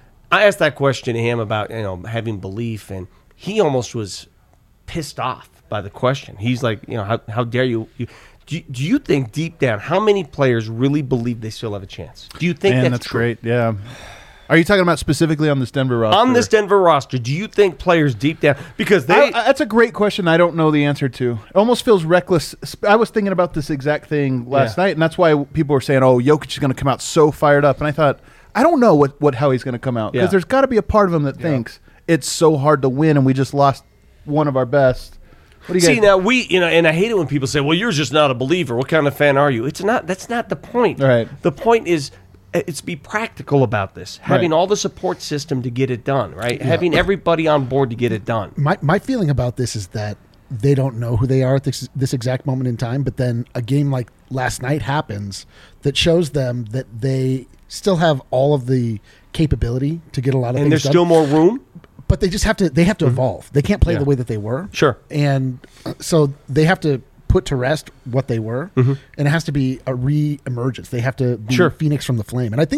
I asked that question to him about having belief, and he almost was pissed off by the question. He's like, how dare you? Do you think deep down, how many players really believe they still have a chance? Do you think that's true? Great? Yeah. Are you talking about specifically on this Denver roster? On this Denver roster, do you think players deep down, because that's a great question. I don't know the answer to. It almost feels reckless. I was thinking about this exact thing last night, and that's why people were saying, "Oh, Jokic is going to come out so fired up." And I thought, I don't know how he's going to come out, because there's got to be a part of him that thinks it's so hard to win, and we just lost one of our best. What do you see now? And I hate it when people say, "Well, you're just not a believer. What kind of fan are you?" It's not. That's not the point. Right. The point is, it's be practical about this. Having all the support system to get it done. Right. Yeah. Having everybody on board to get it done. My feeling about this is that they don't know who they are at this exact moment in time. But then a game like last night happens that shows them that they still have all of the capability to get a lot of things done. And there's still more room. But they just have to evolve. They can't play the way that they were. Sure. And so they have to put to rest what they were. And it has to be a re-emergence. They have to be Phoenix from the flame. And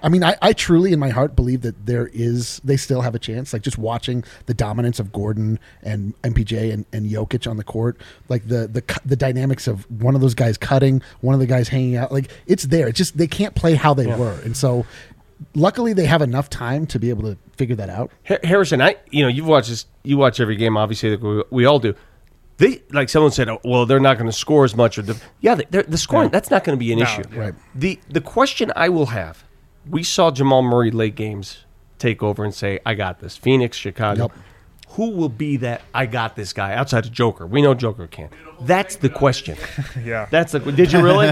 I truly in my heart believe that they still have a chance. Like, just watching the dominance of Gordon and MPJ and Jokic on the court, like the dynamics of one of those guys cutting, one of the guys hanging out, like, it's there. It's just they can't play how they were. And so luckily they have enough time to be able to figure that out. Harrison, you've watched this. You watch every game, obviously, like we all do. They, like someone said, "Oh, well, they're not going to score as much." The scoring, that's not going to be an issue. Right. The question I will have, we saw Jamal Murray late games take over and say, "I got this." Phoenix, Chicago. Yep. Who will be that I got this guy outside of Joker? We know Joker can. That's the question. That's the. Did you really?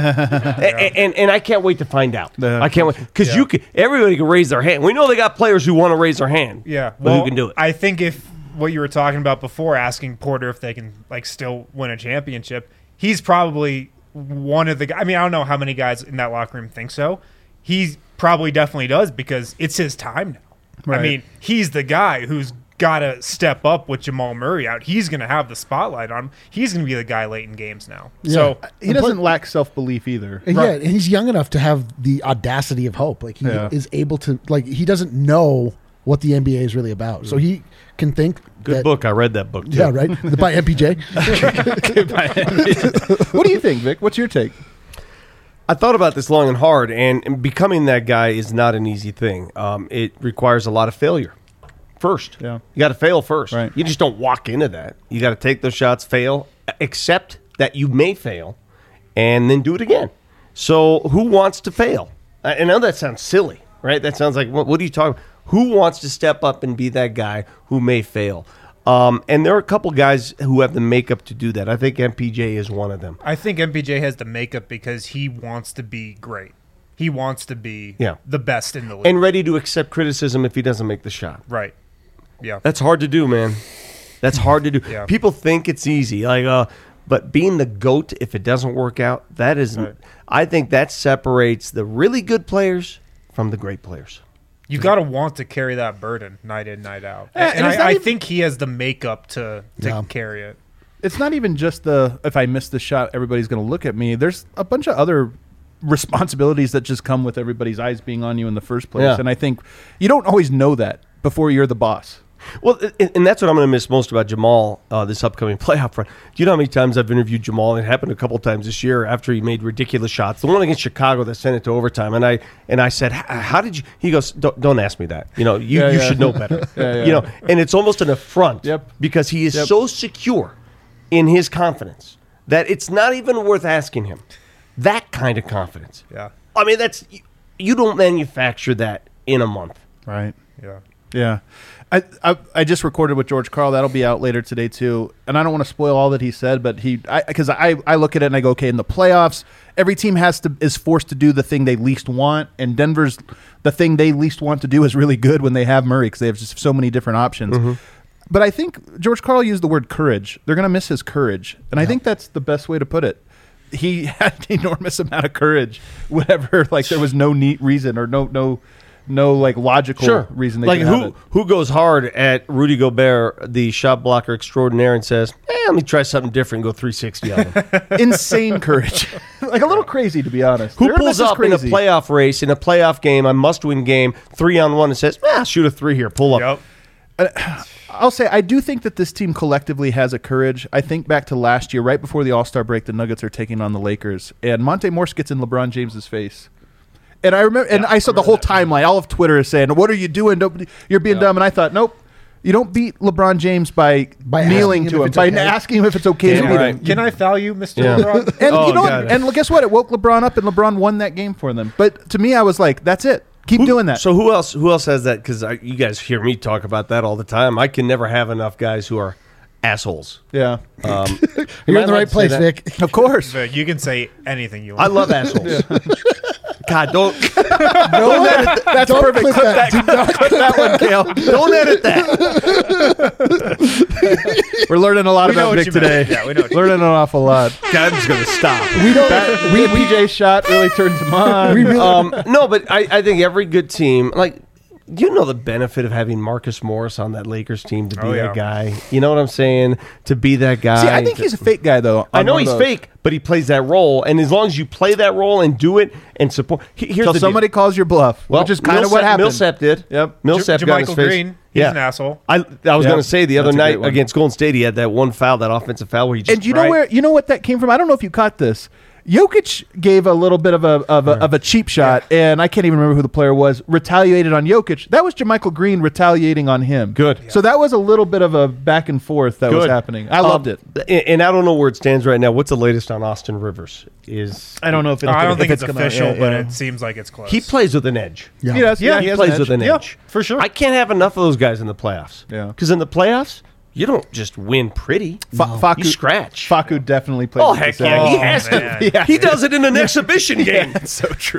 And I can't wait to find out. I can't wait, because everybody can raise their hand. We know they got players who want to raise their hand. Yeah, but who can do it? I think if what you were talking about before, asking Porter if they can still win a championship, he's probably one of the guys. I mean, I don't know how many guys in that locker room think so. He probably definitely does, because it's his time now. Right. I mean, he's the guy who's got to step up with Jamal Murray out. He's going to have the spotlight on him. He's going to be the guy late in games now. Yeah. So he doesn't lack self-belief either. And and he's young enough to have the audacity of hope. Like, he is able to, like, he doesn't know what the NBA is really about. So he can think. Good book. I read that book, too. Yeah, right? By MPJ. What do you think, Vic? What's your take? I thought about this long and hard, and becoming that guy is not an easy thing. It requires a lot of failure first. Yeah. You got to fail first. Right. You just don't walk into that. You got to take those shots, fail, accept that you may fail, and then do it again. So who wants to fail? I know that sounds silly, right? That sounds like, what are you talking about? Who wants to step up and be that guy who may fail? And there are a couple guys who have the makeup to do that. I think MPJ is one of them. I think MPJ has the makeup because he wants to be great. He wants to be the best in the league. And ready to accept criticism if he doesn't make the shot. Right. Yeah. That's hard to do, man. That's hard to do. Yeah. People think it's easy. But being the GOAT, if it doesn't work out, that isn't. Right. I think that separates the really good players from the great players. You got to want to carry that burden night in, night out. And I think he has the makeup to carry it. It's not even just if I miss the shot, everybody's going to look at me. There's a bunch of other responsibilities that just come with everybody's eyes being on you in the first place. Yeah. And I think you don't always know that before you're the boss. Well, and that's what I'm going to miss most about Jamal this upcoming playoff run. Do you know how many times I've interviewed Jamal? It happened a couple times this year after he made ridiculous shots. The one against Chicago that sent it to overtime, and I said, "How did you?" He goes, "Don't ask me that. You should know better." And it's almost an affront because he is so secure in his confidence that it's not even worth asking him. That kind of confidence. Yeah. I mean, you don't manufacture that in a month. Right. Yeah. Yeah. I just recorded with George Karl. That'll be out later today too. And I don't want to spoil all that he said, but because I look at it and I go, okay, in the playoffs, every team is forced to do the thing they least want, and Denver's the thing they least want to do is really good when they have Murray because they have just so many different options. Mm-hmm. But I think George Karl used the word courage. They're going to miss his courage, and I think that's the best way to put it. He had an enormous amount of courage, whatever. Like there was no neat reason or no like logical reason they like could have it. who goes hard at Rudy Gobert, the shot blocker extraordinaire, and says, let me try something different and go 360 on him. Insane courage. Like a little crazy, to be honest. Who pulls up in a playoff race, in a playoff game, a must-win game, 3-on-1 and says, shoot a 3 here, pull up. Yep. I'll say I do think that this team collectively has a courage. I think back to last year, right before the All-Star break, the Nuggets are taking on the Lakers, and Monte Morse gets in LeBron James's face. And I remember, I saw the whole timeline. All of Twitter is saying, "What are you doing? You're being dumb." And I thought, nope, you don't beat LeBron James by kneeling to him, by asking him if it's okay to beat him. Can I foul you, Mr. LeBron? And and guess what? It woke LeBron up, and LeBron won that game for them. But to me, I was like, that's it. Keep doing that. So who else has that? Because you guys hear me talk about that all the time. I can never have enough guys who are assholes. Yeah. You're in the right place, Vic. Of course. You can say anything you want. I love assholes. God, don't edit that. That's perfect. Clip that. Clip that one, Kale. Don't edit that. We're learning a lot about Vic today. Yeah, we know. Learning an awful lot. God, I'm just gonna stop. PJ's shot really turns him on. No, but I think every good team, like, you know, the benefit of having Marcus Morris on that Lakers team to be that guy. You know what I'm saying? To be that guy. See, I think he's a fake guy, though. I know he's fake, but he plays that role, and as long as you play that role and do it and support, here's the somebody calls your bluff, which is kind of what happened. Millsap did. Yep. Millsap got his face. Green. He's an asshole. I was going to say the other night against Golden State, he had that one foul, that offensive foul where he just. And you know what that came from? I don't know if you caught this. Jokic gave a little bit of a cheap shot, and I can't even remember who the player was, retaliated on Jokic. That was JaMychal Green retaliating on him. Good. So that was a little bit of a back and forth that was happening. I loved it. And I don't know where it stands right now. What's the latest on Austin Rivers? I don't know if I don't think it's official, but it seems like it's close. He plays with an edge. Yeah. He plays with an edge. For sure. I can't have enough of those guys in the playoffs. Yeah. Because in the playoffs, you don't just win pretty. You scratch. Facu definitely plays. Oh, heck yeah. He has to. Yeah. He does it in an exhibition game. That's so true.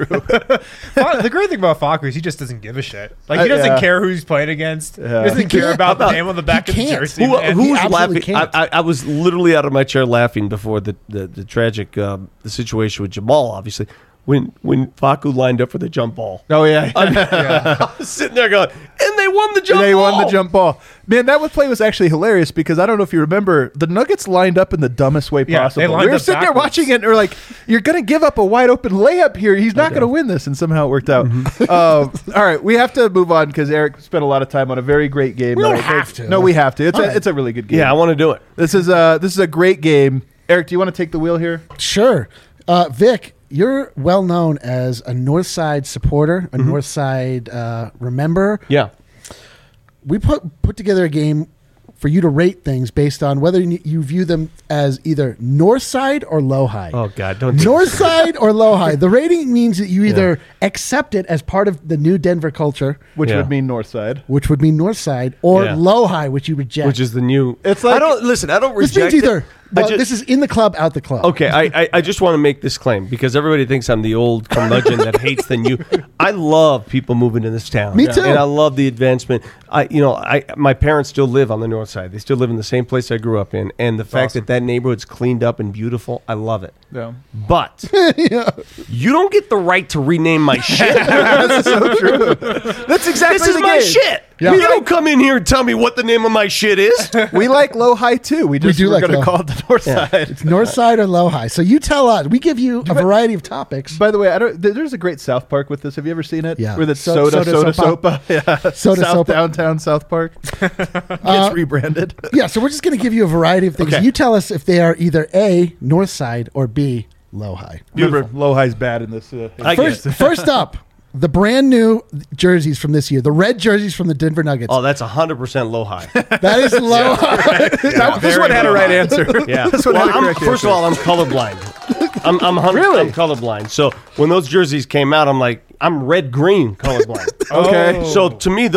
The great thing about Facu is he just doesn't give a shit. Like, he doesn't care who he's playing against. He doesn't care about the name on the back of the jersey. Who's laughing? I was literally out of my chair laughing before the tragic the situation with Jamal, obviously. When Facu lined up for the jump ball. Oh, yeah. I was sitting there going, and they won the jump ball. They won the jump ball. Man, that play was actually hilarious because I don't know if you remember, the Nuggets lined up in the dumbest way possible. We were sitting there watching it, and we're like, you're going to give up a wide open layup here. He's not going to win this, and somehow it worked out. All right, we have to move on because Eric spent a lot of time on a very great game. We don't have to. No, we have to. It's a really good game. Yeah, I want to do it. This is a great game. Eric, do you want to take the wheel here? Sure. Vic, you're well known as a Northside supporter, a Northside rememberer. Yeah. We put together a game for you to rate things based on whether you view them as either north side or low high. Oh, God, don't north side or low high. The rating means that you either accept it as part of the new Denver culture, which would mean north side, or low high, which you reject, which is the new. It's like, I don't reject this means either. This is in the club, out the club. Okay, I just want to make this claim because everybody thinks I'm the old curmudgeon that hates the new. I love people moving to this town. Me too. And I love the advancement. My parents still live on the north side. They still live in the same place I grew up in, and the fact that neighborhood's cleaned up and beautiful, I love it. Yeah. But you don't get the right to rename my shit. That's so true. That's exactly this is my shit. Yeah. You don't come in here and tell me what the name of my shit is. We like low high too. We do like going to call it the north side. It's north side or low high. So you tell us. We give you a variety of topips. By the way, there's a great South Park with this. Have you ever seen it? Yeah. Where it's soda sopa. Yeah. Soda sopa. Downtown South Park. Gets rebranded. Yeah. So we're just going to give you a variety of things. Okay. You tell us if they are either A, north side, or B, low high. Remember, low high's bad in this. First up, the brand new jerseys from this year, the red jerseys from the Denver Nuggets. Oh, that's 100% low high. That is low high. This one had a right answer. Yeah. This one had a correct first of all, I'm colorblind. I'm colorblind. So when those jerseys came out, I'm like, I'm red green colorblind. Okay. So to me, those look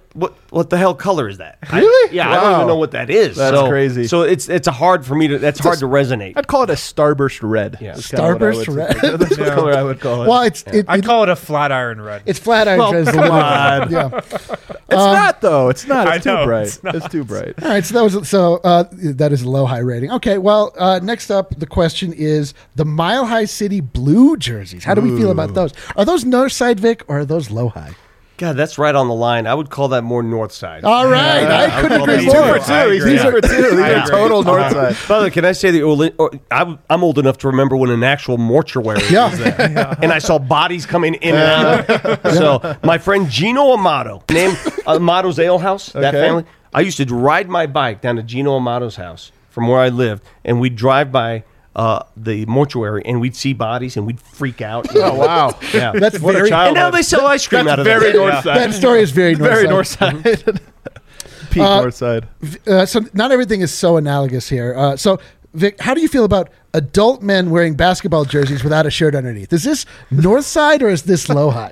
what the hell color is that? Really? I don't Wow. even know what that is. That's crazy. So it's hard for me to. That's hard to resonate. I'd call it a starburst red. Yeah. That's kinda what I Starburst would red? say. That's what color I would call it. Well, I call it a flat iron red. it's flat iron. Well, red is the come limit. on. Yeah. It's not though. It's not. I It's know, too bright. it's not. It's too bright. All right, that is a low high rating. Okay, well, next up, the question is the Mile High City blue jerseys. How do we feel about those? Are those north side, Vic, or are those low high? God, that's right on the line. I would call that more north side. All right, I couldn't agree He's 2 more. for 2. He's 2 for 2. These I are agree. total north side. By the way, can I say that I'm old enough to remember when an actual mortuary was there, and I saw bodies coming in and out. So my friend Gino Amato, named Amato's Ale House, that Okay. family. I used to ride my bike down to Gino Amato's house from where I lived, and we'd drive by the mortuary, and we'd see bodies, and we'd freak out. Oh wow. Yeah. That's What a very. child. And now they sell ice cream out of very that. north Yeah. side. That story is very north Very side. north side. Peak north side. So not everything is so analogous here. So Vic, how do you feel about adult men wearing basketball jerseys without a shirt underneath? Is this north side or is this low high?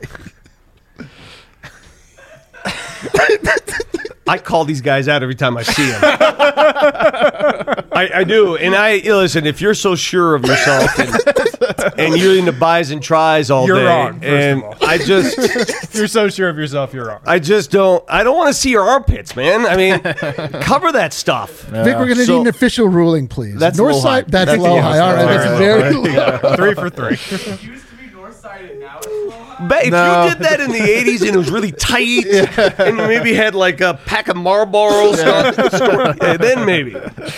I call these guys out every time I see them. I do. And listen, if you're so sure of yourself and you're into buys and tries all You're day, wrong, first and of all. if you're so sure of yourself, you're wrong. I don't want to see your armpits, man. I mean, cover that stuff. Vic, we're going to So- need an official ruling, please. That's north low side. high. That's That's low the high. All right, that's very low. 3 for 3. It used to be north side and now it's low high. If No. you did that in the 80s and it was really tight and you maybe had like a pack of Marlboros, then maybe.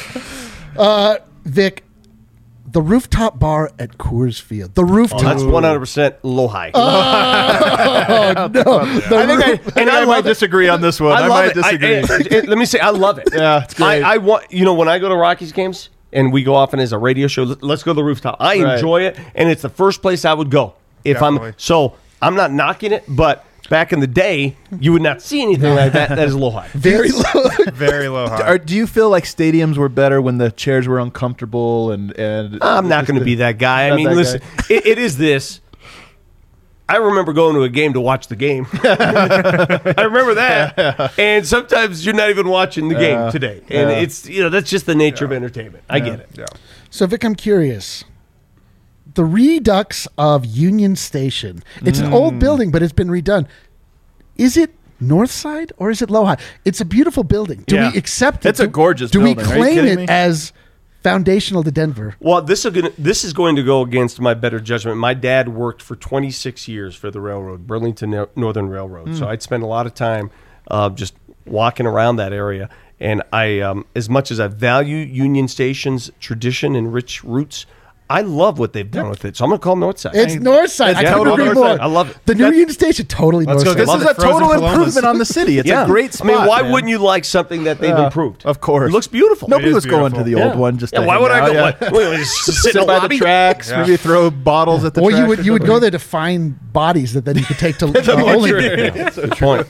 Vic, the rooftop bar at Coors Field. The rooftop. That's 100% low high. Oh, no. I think I might disagree on this one. I love might it. disagree. Let me say, I love it. Yeah, it's great. I want, when I go to Rockies games and we go off and as a radio show, let's go to the rooftop. I Right. enjoy it, and it's the first place I would go if Definitely. I'm not knocking it, but back in the day, you would not see anything like that. That is low high. very low. Very low high. Do you feel like stadiums were better when the chairs were uncomfortable and I'm not going to be that guy. I Not mean, that listen, it is this. I remember going to a game to watch the game. I remember that. And sometimes you're not even watching the game today. And it's, that's just the nature of entertainment. I get it. Yeah. So, Vic, I'm curious. The redux of Union Station. It's an old building, but it's been redone. Is it north side or is it low high? It's a beautiful building. Do Yeah. we accept it? It's a gorgeous Do building. we Are you claim kidding it me? as foundational to Denver? Well, this is going to go against my better judgment. My dad worked for 26 years for the railroad, Burlington Northern Railroad. So I'd spend a lot of time just walking around that area. And I, as much as I value Union Station's tradition and rich roots, I love what they've done with it. So I'm going to call them Northside. It's north side. I yeah, couldn't agree north more. side. I love it. The new Union Station, totally north go side. get This is Love a it. Frozen total Columbus. improvement on the city. It's a great spot. I mean, why man. wouldn't you like something that they've improved? Of course. It looks beautiful. Nobody is was going to the beautiful. old Yeah. one just Yeah, to why hang would I out, go? yeah. Wait, just sit in Sit the by lobby? the tracks, Yeah. maybe throw bottles at the Or tracks. you would or go something. there to find bodies that then you could take to Good point.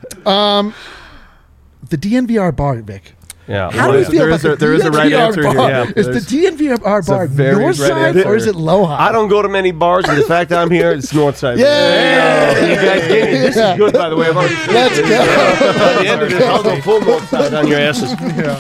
the DNVR bar, Vic. Yeah. How do you yeah. feel There about is the a- there is a right DNVR answer here. bar? Yeah, Is the there's- DNVR bar a very north right side answer. or is it low high? I don't go to many bars, and the fact that I'm here, it's north side. Yeah. You guys get it. This is good, by the way. I've already Let's go. By the end of this, I'll go full north side on your asses.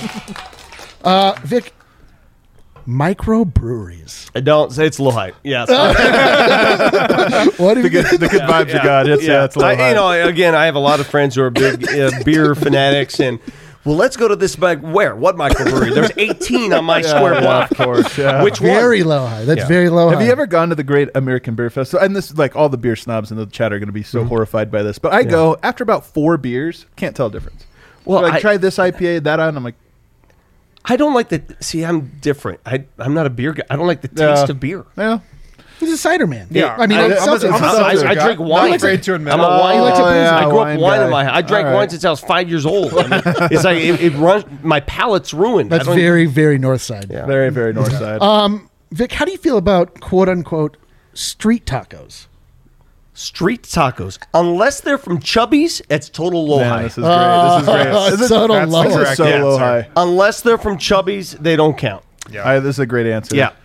Vic, microbreweries. I don't say it's low height. Yes. What do you the good vibes of God. It's it's low high. Again, I have a lot of friends who are big beer fanatics, and well, let's go to this where? What microbrewery? There's 18 on my square block. Of course, yeah. Which one? Very low high. That's Yeah. very low high. Have you ever gone to the Great American Beer Festival? And this, like, all the beer snobs in the chat are going to be so horrified by this. But I go after about 4 beers, can't tell a difference. Well, Like, I- try this IPA, that on. I'm like, I don't like the. See, I'm different. I'm not a beer guy. I don't like the taste of beer. yeah. He's a cider man. Yeah. I mean, I'm it's a- seltzer. I'm a I seltzer drink guy. wine. I'm afraid to admit I'm it. a wine. He likes a booze. I grew wine up wine guy. in my. I drank All right. wine since I was 5 years old. I mean, it's like it runs. My palate's ruined. That's I don't- very, very north side. Yeah. Very, very north side. Vic, how do you feel about quote unquote street tacos? Street tacos, unless they're from Chubby's, it's total low Man, high. this is great. This is great. It's total that's low. the This is correct so low answer. high. Unless they're from Chubby's, they don't count. Yeah. This is a great answer. Yeah.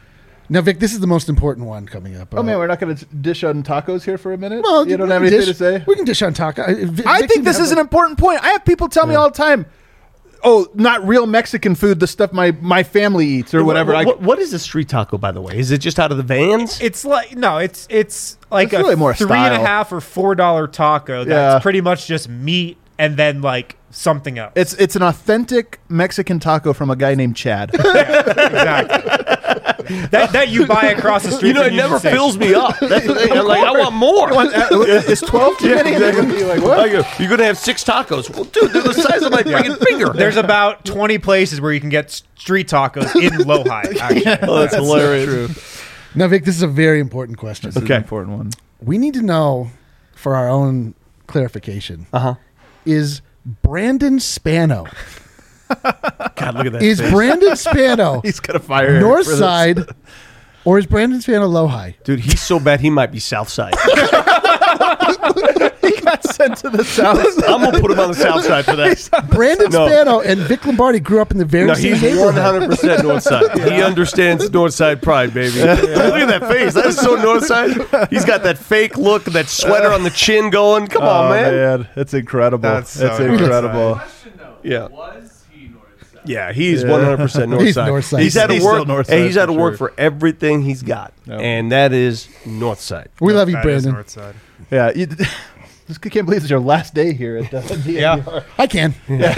Now, Vic, this is the most important one coming up. Oh man, we're not going to dish on tacos here for a minute. Well, you don't we have can anything dish- to say. We can dish on taco. I think this is an important point. I have people tell me all the time, "Oh, not real Mexican food. The stuff my family eats or whatever." What is a street taco, by the way? Is it just out of the vans? It's like it's like It's really more $3.50 or $4 taco. That's Yeah. pretty much just meat and then like something else. It's an authentic Mexican taco from a guy named Chad. exactly that you buy across the street. You know, from it never Union Station. fills me up. That's the thing. I'm like, I want more. Is 12 too many? You're like, what? I go, you're going to have 6 tacos. Well, dude, they're the size of my freaking finger. There's about 20 places where you can get street tacos in Lohi. Actually. Oh, that's hilarious. Now, Vic, this is a very important question. This is an important one. We need to know, for our own clarification, is Brandon Spano. God, look at that Is face. Brandon Spano He's got to fire him North for this. Side, or is Brandon Spano Lohi? Dude, he's so bad he might be South Side. He got sent to the south. I'm going to put him on the South Side for that. Brandon No. Spano and Vic Lombardi grew up in the very No, same he's neighborhood. 100% North Side. He understands North Side pride, baby. Look at that face. That is so North Side. He's got that fake look, that sweater on the chin going. Come on, man. That's incredible. That's so That's North incredible. Question though. Yeah. Was he North Side? Yeah, he's 100% North He's Side. North Side. He's had to He's work. still North Hey, Side he's had to for work sure. for everything he's got, Yep. and that is North Side. We love you, That is Brandon. North Side. Yeah. I can't believe it's your last day here at DNVR. I can.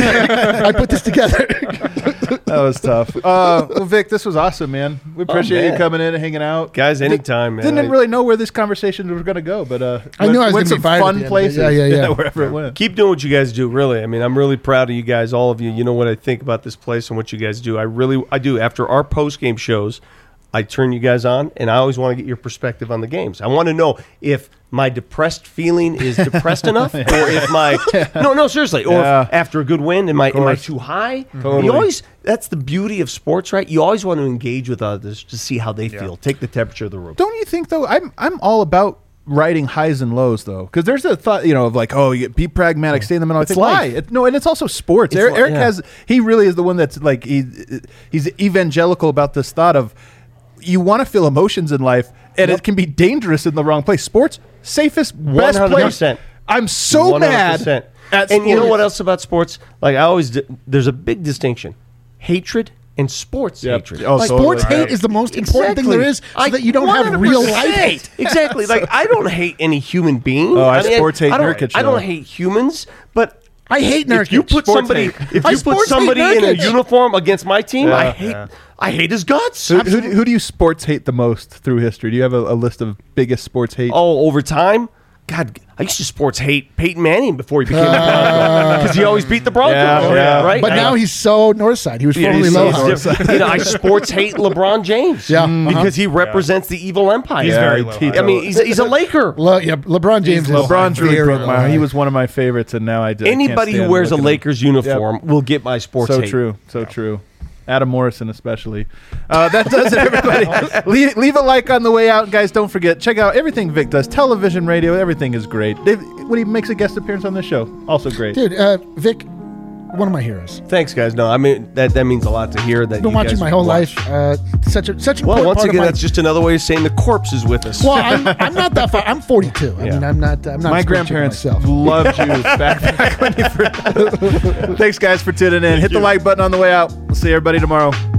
I put this together. That was tough. Well, Vic, this was awesome, man. We appreciate you man. coming in and hanging out. Guys, anytime, man. Didn't really know where this conversation was going to go, but I knew I was went gonna be some fired at fun the end. places. Yeah. Wherever it went. Keep doing what you guys do, really. I mean, I'm really proud of you guys, all of you. You know what I think about this place and what you guys do. I do. After our post-game shows, I turn you guys on, and I always want to get your perspective on the games. I want to know if my depressed feeling is depressed enough, or if my no, seriously, or Yeah. if after a good win, am I course. too high? Totally. You always that's the beauty of sports, right? You always want to engage with others to see how they feel, take the temperature of the room. Don't you think though? I'm all about writing highs and lows though, because there's a thought, of like, oh, you be pragmatic, stay in the middle. I think life. why? And it's also sports. It's Eric yeah. he really is the one that's like he's evangelical about this thought of you want to feel emotions in life, and it can be dangerous in the wrong place. Sports, safest, best place. 100%. I'm so mad 100%. at And you know sports. what else about sports? Like I always, there's a big distinction: hatred and sports Yep. hatred. Oh, Like, totally. Sports hate is the most important thing there is, so that you don't have real life 100%. hate. Exactly. Like I don't hate any human being. Oh, I sports hate I don't, Nurkic, I though. don't hate humans, but. I hate Nurkic. If you put Sports somebody, hate. if I you put sports hate somebody in a Nurkic. uniform against my team, Yeah. I hate his guts. Who do you sports hate the most through history? Do you have a list of biggest sports hate? Oh, over time, God, I used to sports hate Peyton Manning before he became a Bronco because he always beat the Broncos, Yeah. right? But now he's so North Side. He was Yeah, formerly he's Low so different. I sports hate LeBron James, Yeah, because he represents the evil empire. He's very low. I mean, he's a Laker. LeBron James. is LeBron's really very broke my. low. He was one of my favorites, and now I can't Anybody who stand wears a looking at him. Lakers uniform will get my sports So hate. true. So true. Adam Morrison especially. That does it, everybody. leave a like on the way out. Guys, don't forget, check out everything Vic does. Television, radio, everything is great. When he makes a guest appearance on this show, also great. Dude, Vic, one of my heroes. Thanks, guys. No, I mean that means a lot to hear. That I've been you watching guys my whole watch. life. Such an Well, important once part again, of my, that's just another way of saying the corpse is with us. Well, I'm not that far. I'm 42. I Yeah. mean, I'm not. My a spring chicken grandparents myself. loved you back when you first. Thanks, guys, for tuning in. Hit the like button on the way out. We'll see everybody tomorrow.